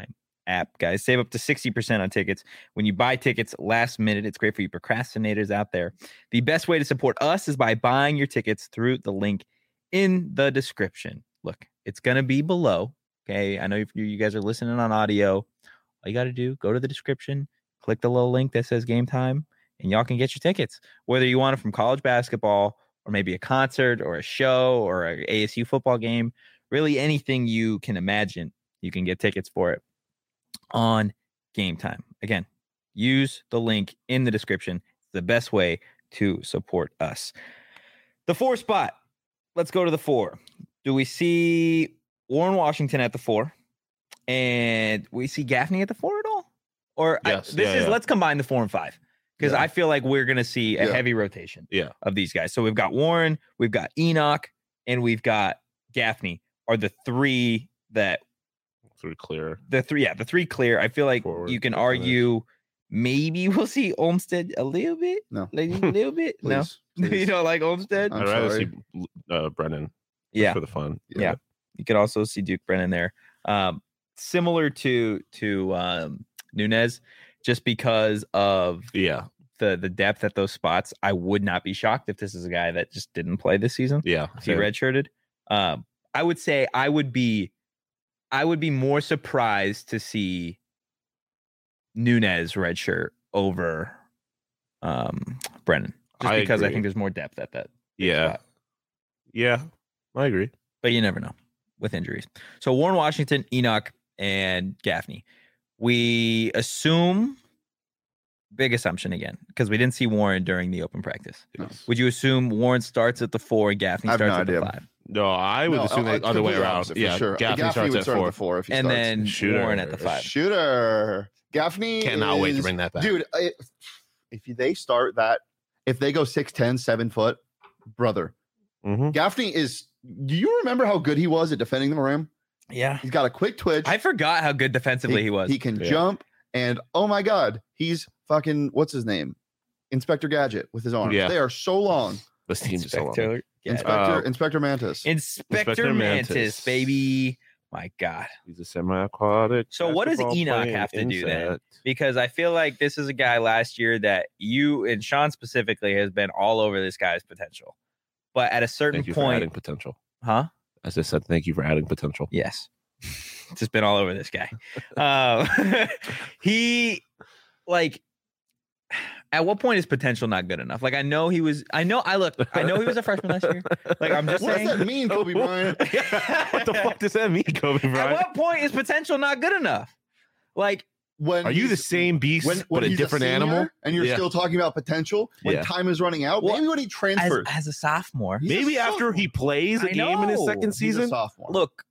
app, guys. Save up to sixty percent on tickets when you buy tickets last minute. It's great for you procrastinators out there. The best way to support us is by buying your tickets through the link in the description. Look, it's going to be below. Okay. I know if you guys are listening on audio, all you got to do, go to the description, click the little link that says Game Time, and y'all can get your tickets, whether you want it from college basketball or maybe a concert or a show or a A S U football game, really anything you can imagine, you can get tickets for it on Game Time. Again, use the link in the description. It's the best way to support us. The four spot. Let's go to the four. Do we see Warren Washington at the four? And we see Gaffney at the four at all? Or Yes, I, this yeah, is yeah. let's combine the four and five. Because Yeah. I feel like we're gonna see a Yeah. heavy rotation Yeah. of these guys. So we've got Warren, we've got Enoch, and we've got Gaffney are the three that Sort of clear. the three, yeah, the three clear. I feel like Forward you can percentage. argue maybe we'll see Olmsted a little bit, No. like a little bit. No, Please, you please. don't like Olmsted? I'm I'd rather sorry. see uh, Brennan Yeah, for the fun. yeah. You could also see Duke Brennan there. Um, similar to to um, Nunez, just because of Yeah. the the depth at those spots. I would not be shocked if this is a guy that just didn't play this season. Yeah. If he same. redshirted. Um, I would say I would be, I would be more surprised to see Nunez redshirt over um, Brennan, just I because I agree. think there's more depth at that. big Yeah. spot. Yeah. I agree. But you never know with injuries. So Warren Washington, Enoch, and Gaffney. We assume, big assumption again, because we didn't see Warren during the open practice. Yes. Would you assume Warren starts at the four and Gaffney I have no starts at the idea. five? No, I would No, assume uh, the other way completely around. opposite, for Yeah. sure. Gaffney, Gaffney starts would at start four. at the four if he And starts. then Shooter. Warren at the five. Shooter. Gaffney Cannot wait to is- bring that back. Dude, I- if they start that, if they go six ten, seven foot, brother, Mm-hmm. Gaffney is. Do you remember how good he was at defending the rim? Yeah. He's got a quick twitch. I forgot how good defensively he, was. He can Yeah. jump, and oh my god, he's fucking what's his name, Inspector Gadget with his arms. Yeah. They are so long. This team's so long. Inspector, yeah. Inspector Uh, Inspector Mantis. Inspector, Inspector Mantis, Mantis. baby. My God. He's a semi-aquatic. So what does basketball Enoch playing have to do then? insect. Because I feel like this is a guy last year that you and Sean specifically has been all over this guy's potential. But at a certain Thank you for adding point, potential. huh? As I said, thank you for adding potential. Yes. Just been all over this guy. Uh, he, like, at what point is potential not good enough? Like, I know he was, I know, I look, I know he was a freshman last year. Like, I'm just What saying. does that mean, Kobe Bryant? What the fuck does that mean, Kobe At Bryant? what point is potential not good enough? Like, When Are you the he's- same beast when, when but a he's different senior animal? and you're Yeah. still talking about potential when Yeah. time is running out? Well, Maybe when he as, transfers. as a sophomore, He's a Maybe after he plays a I game in his know. second He's a season. sophomore. look,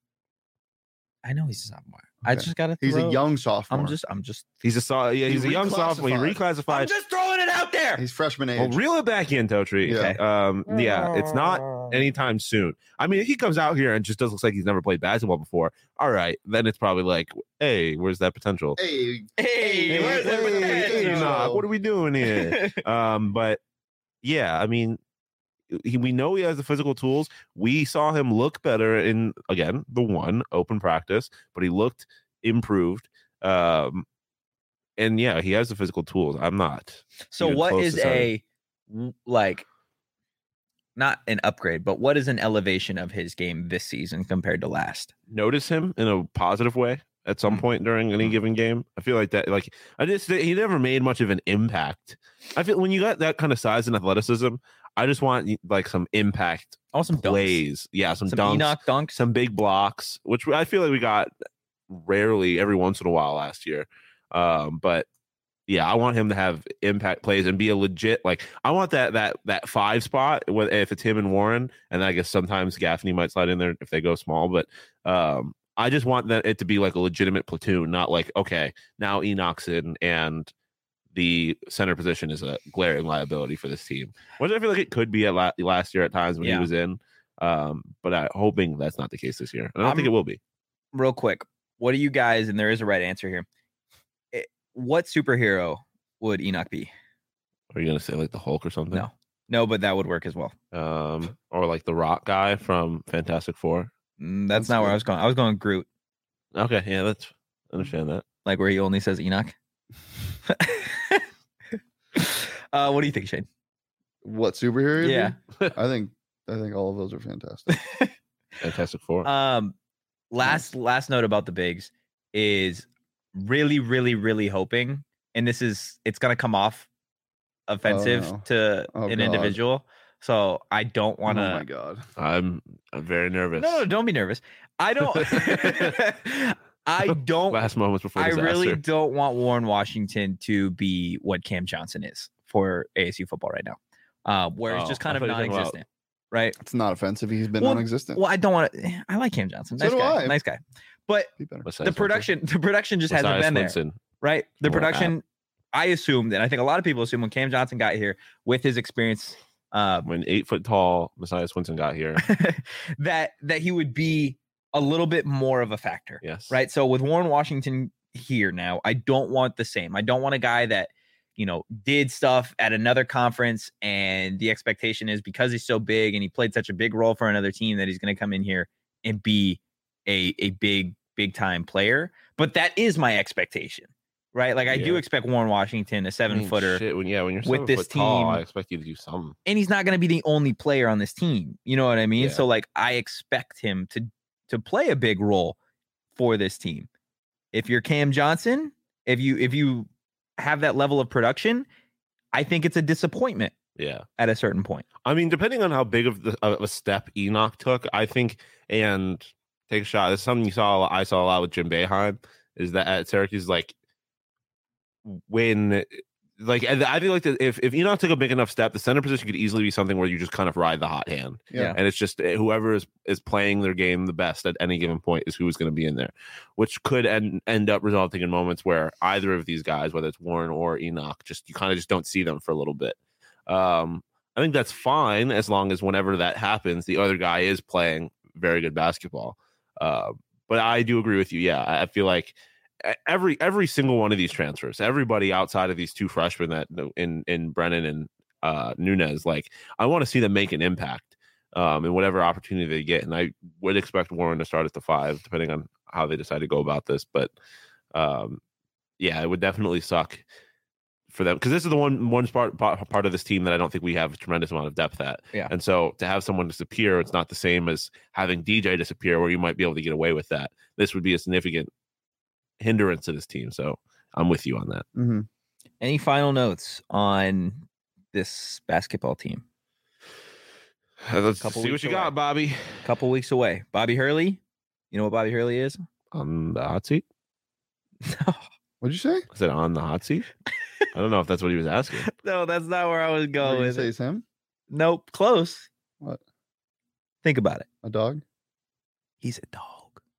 I know he's a sophomore. I Okay. just got to he's a young sophomore. I'm just, I'm just, He's a so, yeah, He he's a young sophomore. He I'm reclassified. just throwing it out there. He's freshman age. Well, reel it back in, Totri. Yeah. Um, yeah, it's not anytime soon. I mean, if he comes out here and just does looks like he's never played basketball before, all right, then it's probably like, hey, where's that potential? Hey, Hey, Hey, where's the hey, potential? hey, Enoch, what are we doing here? um, but yeah, I mean, he, we know he has the physical tools. We saw him look better in again the one open practice, but he looked improved. Um, and yeah, he has the physical tools. I'm not. So even what close is to a w- like not an upgrade, but what is an elevation of his game this season compared to last? Notice him in a positive way at some Mhm. point during any given game. I feel like that, like I just he never made much of an impact. I feel when you got that kind of size and athleticism, I just want like some impact Oh, some dunks. plays. Yeah, some, Some dunks, Enoch dunks. some big blocks, which I feel like we got rarely every once in a while last year. Um, but yeah, I want him to have impact plays and be a legit like I want that that that five spot with if it's him and Warren, and I guess sometimes Gaffney might slide in there if they go small, but um I just want that it to be like a legitimate platoon, not like okay, now Enoch's in and the center position is a glaring liability for this team, which I feel like it could be at la- last year at times when Yeah. he was in. Um, but I'm hoping that's not the case this year. And I don't think I'm- it will be. Real quick, what do you guys? And there is a right answer here. Eh, What superhero would Enoch be? Are you gonna say like the Hulk or something? No, no, but that would work as well. Um, or like the Rock guy from Fantastic Four. Mm, That's That's not where good. I was going. I was going Groot. Okay, yeah, that's I understand that. like where he only says Enoch. uh, what do you think, Shane? What superhero? you'd Yeah. be? I think I think all of those are fantastic. Fantastic Four. Um, last last note about the bigs is really, really, really hoping, and this is it's gonna come off offensive no. to Oh, an God. individual. So I don't want to. Oh my god. I'm, I'm very nervous. No, no, don't be nervous. I don't. I don't. Last moments before I disaster. really don't want Warren Washington to be what Cam Johnson is for A S U football right now, uh, where it's Oh, just I kind of thought you were talking about- non-existent, right? It's not offensive. He's been Well, non-existent. Well, I don't want to. I like Cam Johnson. So Nice do guy. I. Nice guy. But Be better. Besides the production, the production just Winston. hasn't been there, Besides Winston. right? The More production. I assumed, and I think a lot of people assume when Cam Johnson got here with his experience, uh, When eight foot tall Messiah Swinson got here. that that he would be a little bit more of a factor. Yes. Right. So with Warren Washington here now, I don't want the same. I don't want a guy that, you know, did stuff at another conference and the expectation is because he's so big and he played such a big role for another team that he's going to come in here and be a a big, big time player. But that is my expectation. Right. Like I do Yeah. expect Warren Washington, a I seven mean, footer, shit, when, yeah, when you're with seven this foot tall, team- I expect you to do something. and he's not going to be the only player on this team. You know what I mean? Yeah. So like I expect him to to play a big role for this team. If you're Cam Johnson, if you if you have that level of production, I think it's a disappointment Yeah. at a certain point. I mean, depending on how big of, the, of a step Enoch took, I think, and take a shot. This is something you saw. I saw a lot with Jim Boeheim. Is that at Syracuse, like when, like I think like the, if if Enoch took a big enough step, the center position could easily be something where you just kind of ride the hot hand, Yeah. and it's just uh, whoever is is playing their game the best at any given point is who is going to be in there, which could end end up resulting in moments where either of these guys, whether it's Warren or Enoch, just you kind of just don't see them for a little bit. Um, I think that's fine as long as whenever that happens, the other guy is playing very good basketball. Uh, but I do agree with you. Yeah, I I feel like every every single one of these transfers, everybody outside of these two freshmen that in in Brennan and uh, Nunez, like I want to see them make an impact um, in whatever opportunity they get. And I would expect Warren to start at the five, depending on how they decide to go about this. But um, yeah, it would definitely suck for them because this is the one one part part of this team that I don't think we have a tremendous amount of depth at. Yeah. And so to have someone disappear, it's not the same as having D J disappear, where you might be able to get away with that. This would be a significant hindrance to this team. So I'm with you on that. Mm-hmm. Any final notes on this basketball team? Let's Couple see what weeks you away. got, Bobby. A couple weeks away. Bobby Hurley. You know what Bobby Hurley is? On the hot seat? What'd you say? I said on the hot seat. I don't know if that's what he was asking. No, that's not where I was What going did you with say it. it's him? Nope, close. What? Think about it. A dog? He's a dog.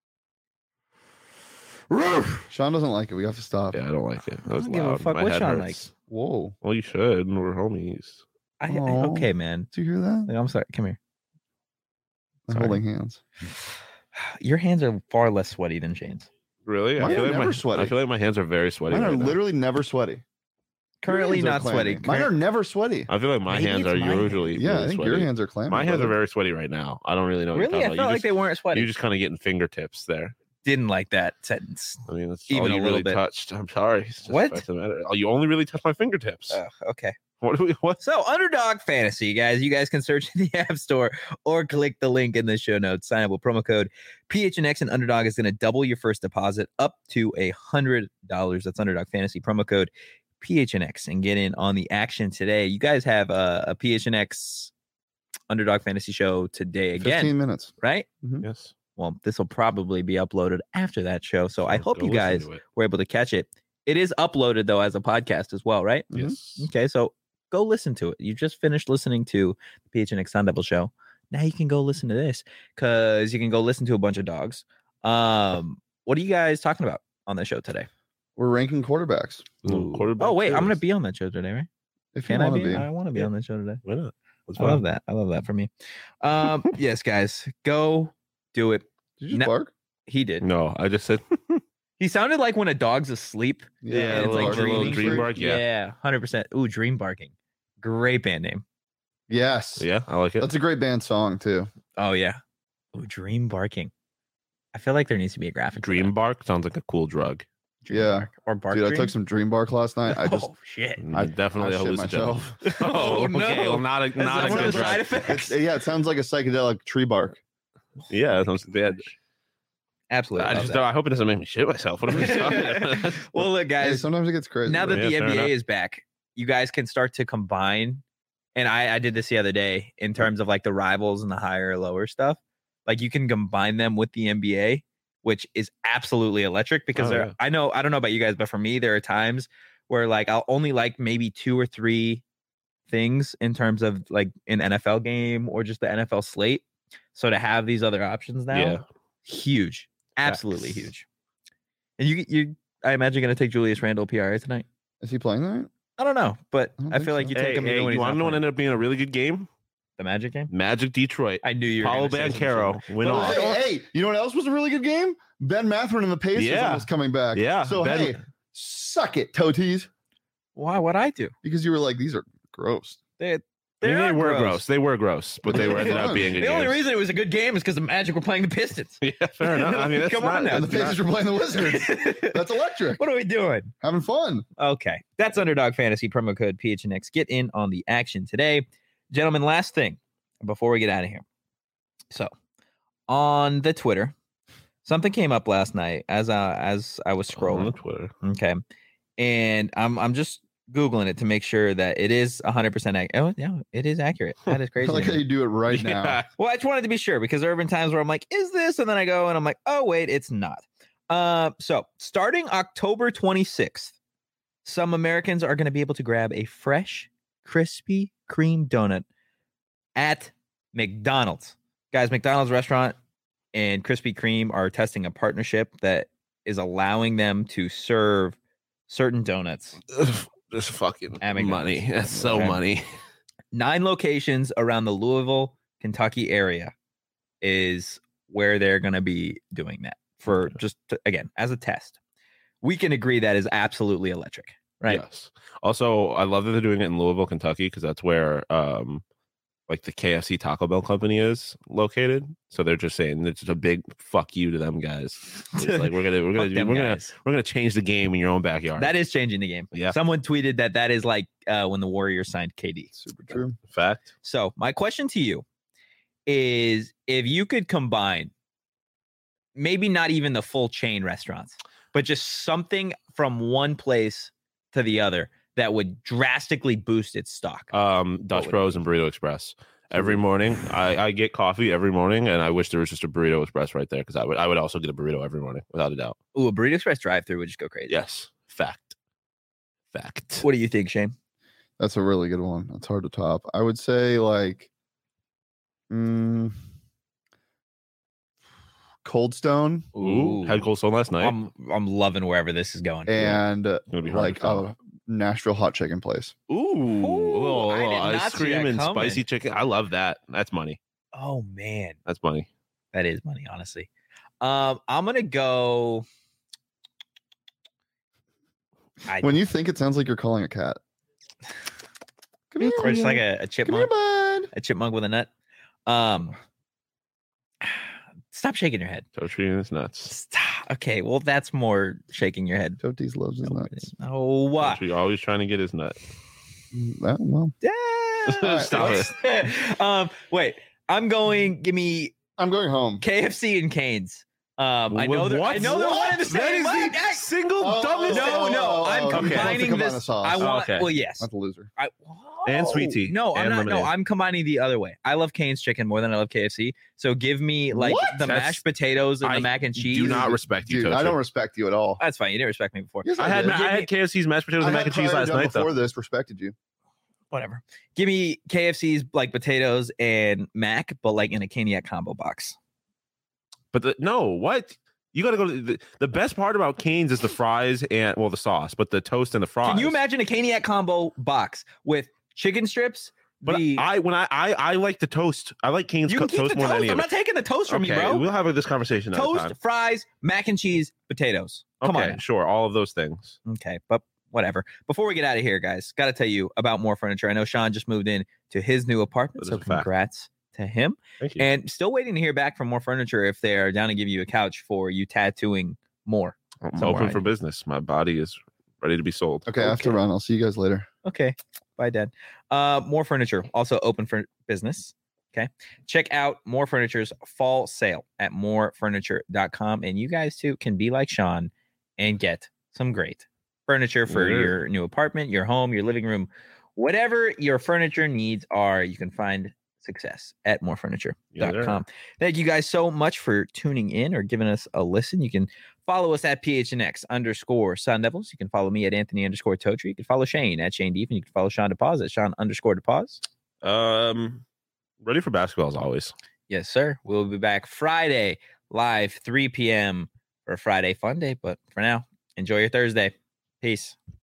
Sean doesn't like it. We have to stop. Yeah, I don't like it. That was don't give a loud. fuck My what head Sean hurts. Whoa. Well, you should. We're homies. I, I Aw. okay, man. Did you hear that? Like, I'm sorry. Come here. I'm Sorry. holding hands. Your hands are far less sweaty than Shane's. Really? Mine I feel are like never my sweaty. I feel like my hands are very sweaty. Mine are right now. literally never sweaty. Currently Your hands not are sweaty. clammy. Mine are never sweaty. I feel like my Maybe hands it's are my hands. usually Yeah, really I think sweaty. your hands are clammy. My hands are brother. very sweaty right now. I don't really know. What Really? You're I talking felt about. like you they weren't just, sweaty. you just kind of getting fingertips there. Didn't like that sentence. I mean, that's Even all a you little really bit. touched. I'm sorry. It's just What? fact of the matter. Oh, you only really touched my fingertips. Oh, okay. What do we? What? So, Underdog Fantasy, guys. You guys can search in the App Store or click the link in the show notes. Sign up with promo code P H N X, and Underdog is going to double your first deposit up to a hundred dollars. That's Underdog Fantasy promo code P H N X, and get in on the action today. You guys have a, a P H N X Underdog Fantasy show today again, fifteen minutes. right? Yes. Well, this will probably be uploaded after that show, so I Go hope you listen guys to it. were able to catch it. It is uploaded though as a podcast as well, right? Mhm. Yes. Okay, so go listen to it. You just finished listening to the P H N X Sun Devil show. Now you can go listen to this because you can go listen to a bunch of dogs. Um, what are you guys talking about on the show today? We're ranking quarterbacks. Little Ooh. quarterback Oh wait, I'm gonna series. be on that show today, right? If Can you I want to be? be. I want to be Yeah. on that show today. Why not? That's I love fine. that. I love that for me. Um, yes, guys, go do it. Did you No. bark? He did. No, I just said He sounded like when a dog's asleep. Yeah, and a it's little- like a little dreaming. dream bark, yeah. yeah, hundred percent. Ooh, dream barking. Great band name. Yes. yeah, I like it. That's a great band song too. Oh yeah. Ooh, dream barking. I feel like there needs to be a graphic. for Dream that. bark sounds like a cool drug. Yeah. Or Bark Dude, I Dream? took some Dream Bark last night. I just oh shit. I- definitely I a shit hallucinogen. myself. Oh, okay. no. Well, not a That's not a one of good the drug. side effects. It's, yeah, it sounds like a psychedelic tree bark. Yeah, that's what they had. Absolutely. I love just that. don't, I hope it doesn't make me shit myself. What am I talking about? Well, look, Hey, guys. sometimes it gets crazy. Now that Yeah, the fair N B A enough. is back, you guys can start to combine. And I, I did this the other day in terms of like the rivals and the higher lower stuff. Like you can combine them with the N B A, which is absolutely electric because Oh, there, yeah. I know, I don't know about you guys, but for me, there are times where like I'll only like maybe two or three things in terms of like an N F L game or just the N F L slate. So to have these other options now, Yeah. huge, absolutely Facts. huge. And you, you, I imagine going to take Julius Randle P R A tonight. Is he playing that? I don't know, but I don't I, think feel like so. you Hey, take him hey, even when you he's want not to know what playing. ended up being a really good game? The Magic game. Magic Detroit. I knew you were Paulo gonna say some Banchero shit. went But off. look, Hey, hey, you know what else was a really good game? Ben Matherin and the Pacers Yeah. almost coming back. Yeah, So Ben- hey, suck it, Toties, Why? What I do? because you were like, these are gross. They, I they, mean, they are were gross. gross. They were gross, but they They were were ended up fun. being good The only games. reason it was a good game is because the Magic were playing the Pistons. Yeah, fair enough. I mean, that's Come not, on now. And the that's Pacers not- were playing the Wizards. That's electric. What are we doing? Having fun. Okay, that's Underdog Fantasy promo code P H N X. Get in on the action today, gentlemen. Last thing before we get out of here. So, on the Twitter, something came up last night as uh, as I was on scrolling. Twitter. Okay, and I'm I'm just googling it to make sure that it is one hundred percent accurate. Oh, yeah, it is accurate. That is I crazy. like to how me. you do it right now. Yeah. Well, I just wanted to be sure because there have been times where I'm like, is this? And then I go and I'm like, oh, wait, it's not. Uh, so starting October twenty-sixth, some Americans are going to be able to grab a fresh, Krispy Kreme donut at McDonald's. Guys, McDonald's restaurant and Krispy Kreme are testing a partnership that is allowing them to serve certain donuts. Just fucking At McDonald's. money. That's so Okay. money. Nine locations around the Louisville, Kentucky area is where they're going to be doing that for Okay. just to, again as a test. We can agree that is absolutely electric, right? Yes. Also, I love that they're doing it in Louisville, Kentucky, because that's where um like the K F C Taco Bell company is located. So they're just saying it's just a big fuck you to them guys. It's like we're gonna we're Fuck gonna them we're gonna guys. we're gonna change the game in your own backyard. That is changing the game. Yeah. Someone tweeted that that is like uh, when the Warriors signed K D. Super true. fact. So my question to you is, if you could combine, maybe not even the full chain restaurants, but just something from one place to the other that would drastically boost its stock. Um, Dutch would it Bros and Burrito Express. Every morning, I, I get coffee every morning, and I wish there was just a Burrito Express right there because I would I would also get a burrito every morning without a doubt. Ooh, a Burrito Express drive-through would just go crazy. Yes, fact, fact. What do you think, Shane? That's a really good one. That's hard to top. I would say like mm, Cold Stone Ooh, had Cold Stone last night. I'm I'm loving wherever this is going. and uh, Gonna be hard like to top. a Nashville hot chicken place. Ooh, Ooh, a little, I little did not ice see cream that and coming. spicy chicken. I love that. That's money. Oh man, That's money. that is money, honestly. Um, I'm gonna go. I, When you think it sounds like you're calling a cat. Come here, or just like William. a, a Come here, chipmunk, bud. a chipmunk with a nut. Um, stop shaking your head. So treating this nuts. Stop. Okay, well, that's more shaking your head. Totes loves his No, nuts. oh, what? You're always trying to get his nut. Mm, That, well, Yeah. Stop it. um, wait, I'm going. Give me I'm going home. K F C and Canes. Um, I know Wh- they're. I what? know they're one and the That same. is What? the I- single Oh, dumbest. no, oh, no, oh, I'm oh, okay. combining Combine this. the sauce. I want. Okay. Well, yes. Not the loser. I, And sweet Whoa. tea No, I'm and not. No, lemonade. I'm combining the other way. I love Cane's chicken more than I love K F C. So give me like What? the That's- mashed potatoes and I the mac and cheese. Do not respect you, Dude, Toaster. I don't respect you at all. That's fine. You didn't respect me before. Yes, I had did. I had K F C's mashed potatoes I and mac had and cheese prior last done night though. Before this, respected you. Whatever. Give me K F C's like potatoes and mac, but like in a Caniac combo box. But the, no, what? You got to go to the, the best part about Cane's is the fries and well the sauce, but the toast and the fries. Can you imagine a Caniac combo box with chicken strips? But the, I when I, I I like the toast. I like Cane's you co- can keep toast the more toast. than any I'm of not it. taking the toast from Okay, you, bro. we'll have this conversation another Toast, time. fries, mac and cheese, potatoes. Come okay, on. sure, all of those things. Okay, but whatever. Before we get out of here, guys, got to tell you about More Furniture. I know Sean just moved in to his new apartment, That so is a fact. congrats to him. Thank you. And still waiting to hear back from More Furniture if they are down to give you a couch for you tattooing more. I'm Somewhere open I for need- business. My body is ready to be sold. Okay, I have to Okay. run. I'll see you guys later. Okay. Bye, Dad. Uh, More Furniture, also open for business. Okay. Check out More Furniture's fall sale at more furniture dot com. And you guys too can be like Sean and get some great furniture for Yeah. your new apartment, your home, your living room, whatever your furniture needs are. You can find success at more furniture dot com. Yeah. Thank you guys so much for tuning in or giving us a listen. You can follow us at P H N X underscore Sun Devils. You can follow me at Anthony underscore Totri. You can follow Shane at Shane Deep, and you can follow Sean DePause at Sean underscore DePause. Um, ready for basketball as always. Yes, sir. We'll be back Friday live, three p.m. for Friday Fun Day. But for now, enjoy your Thursday. Peace.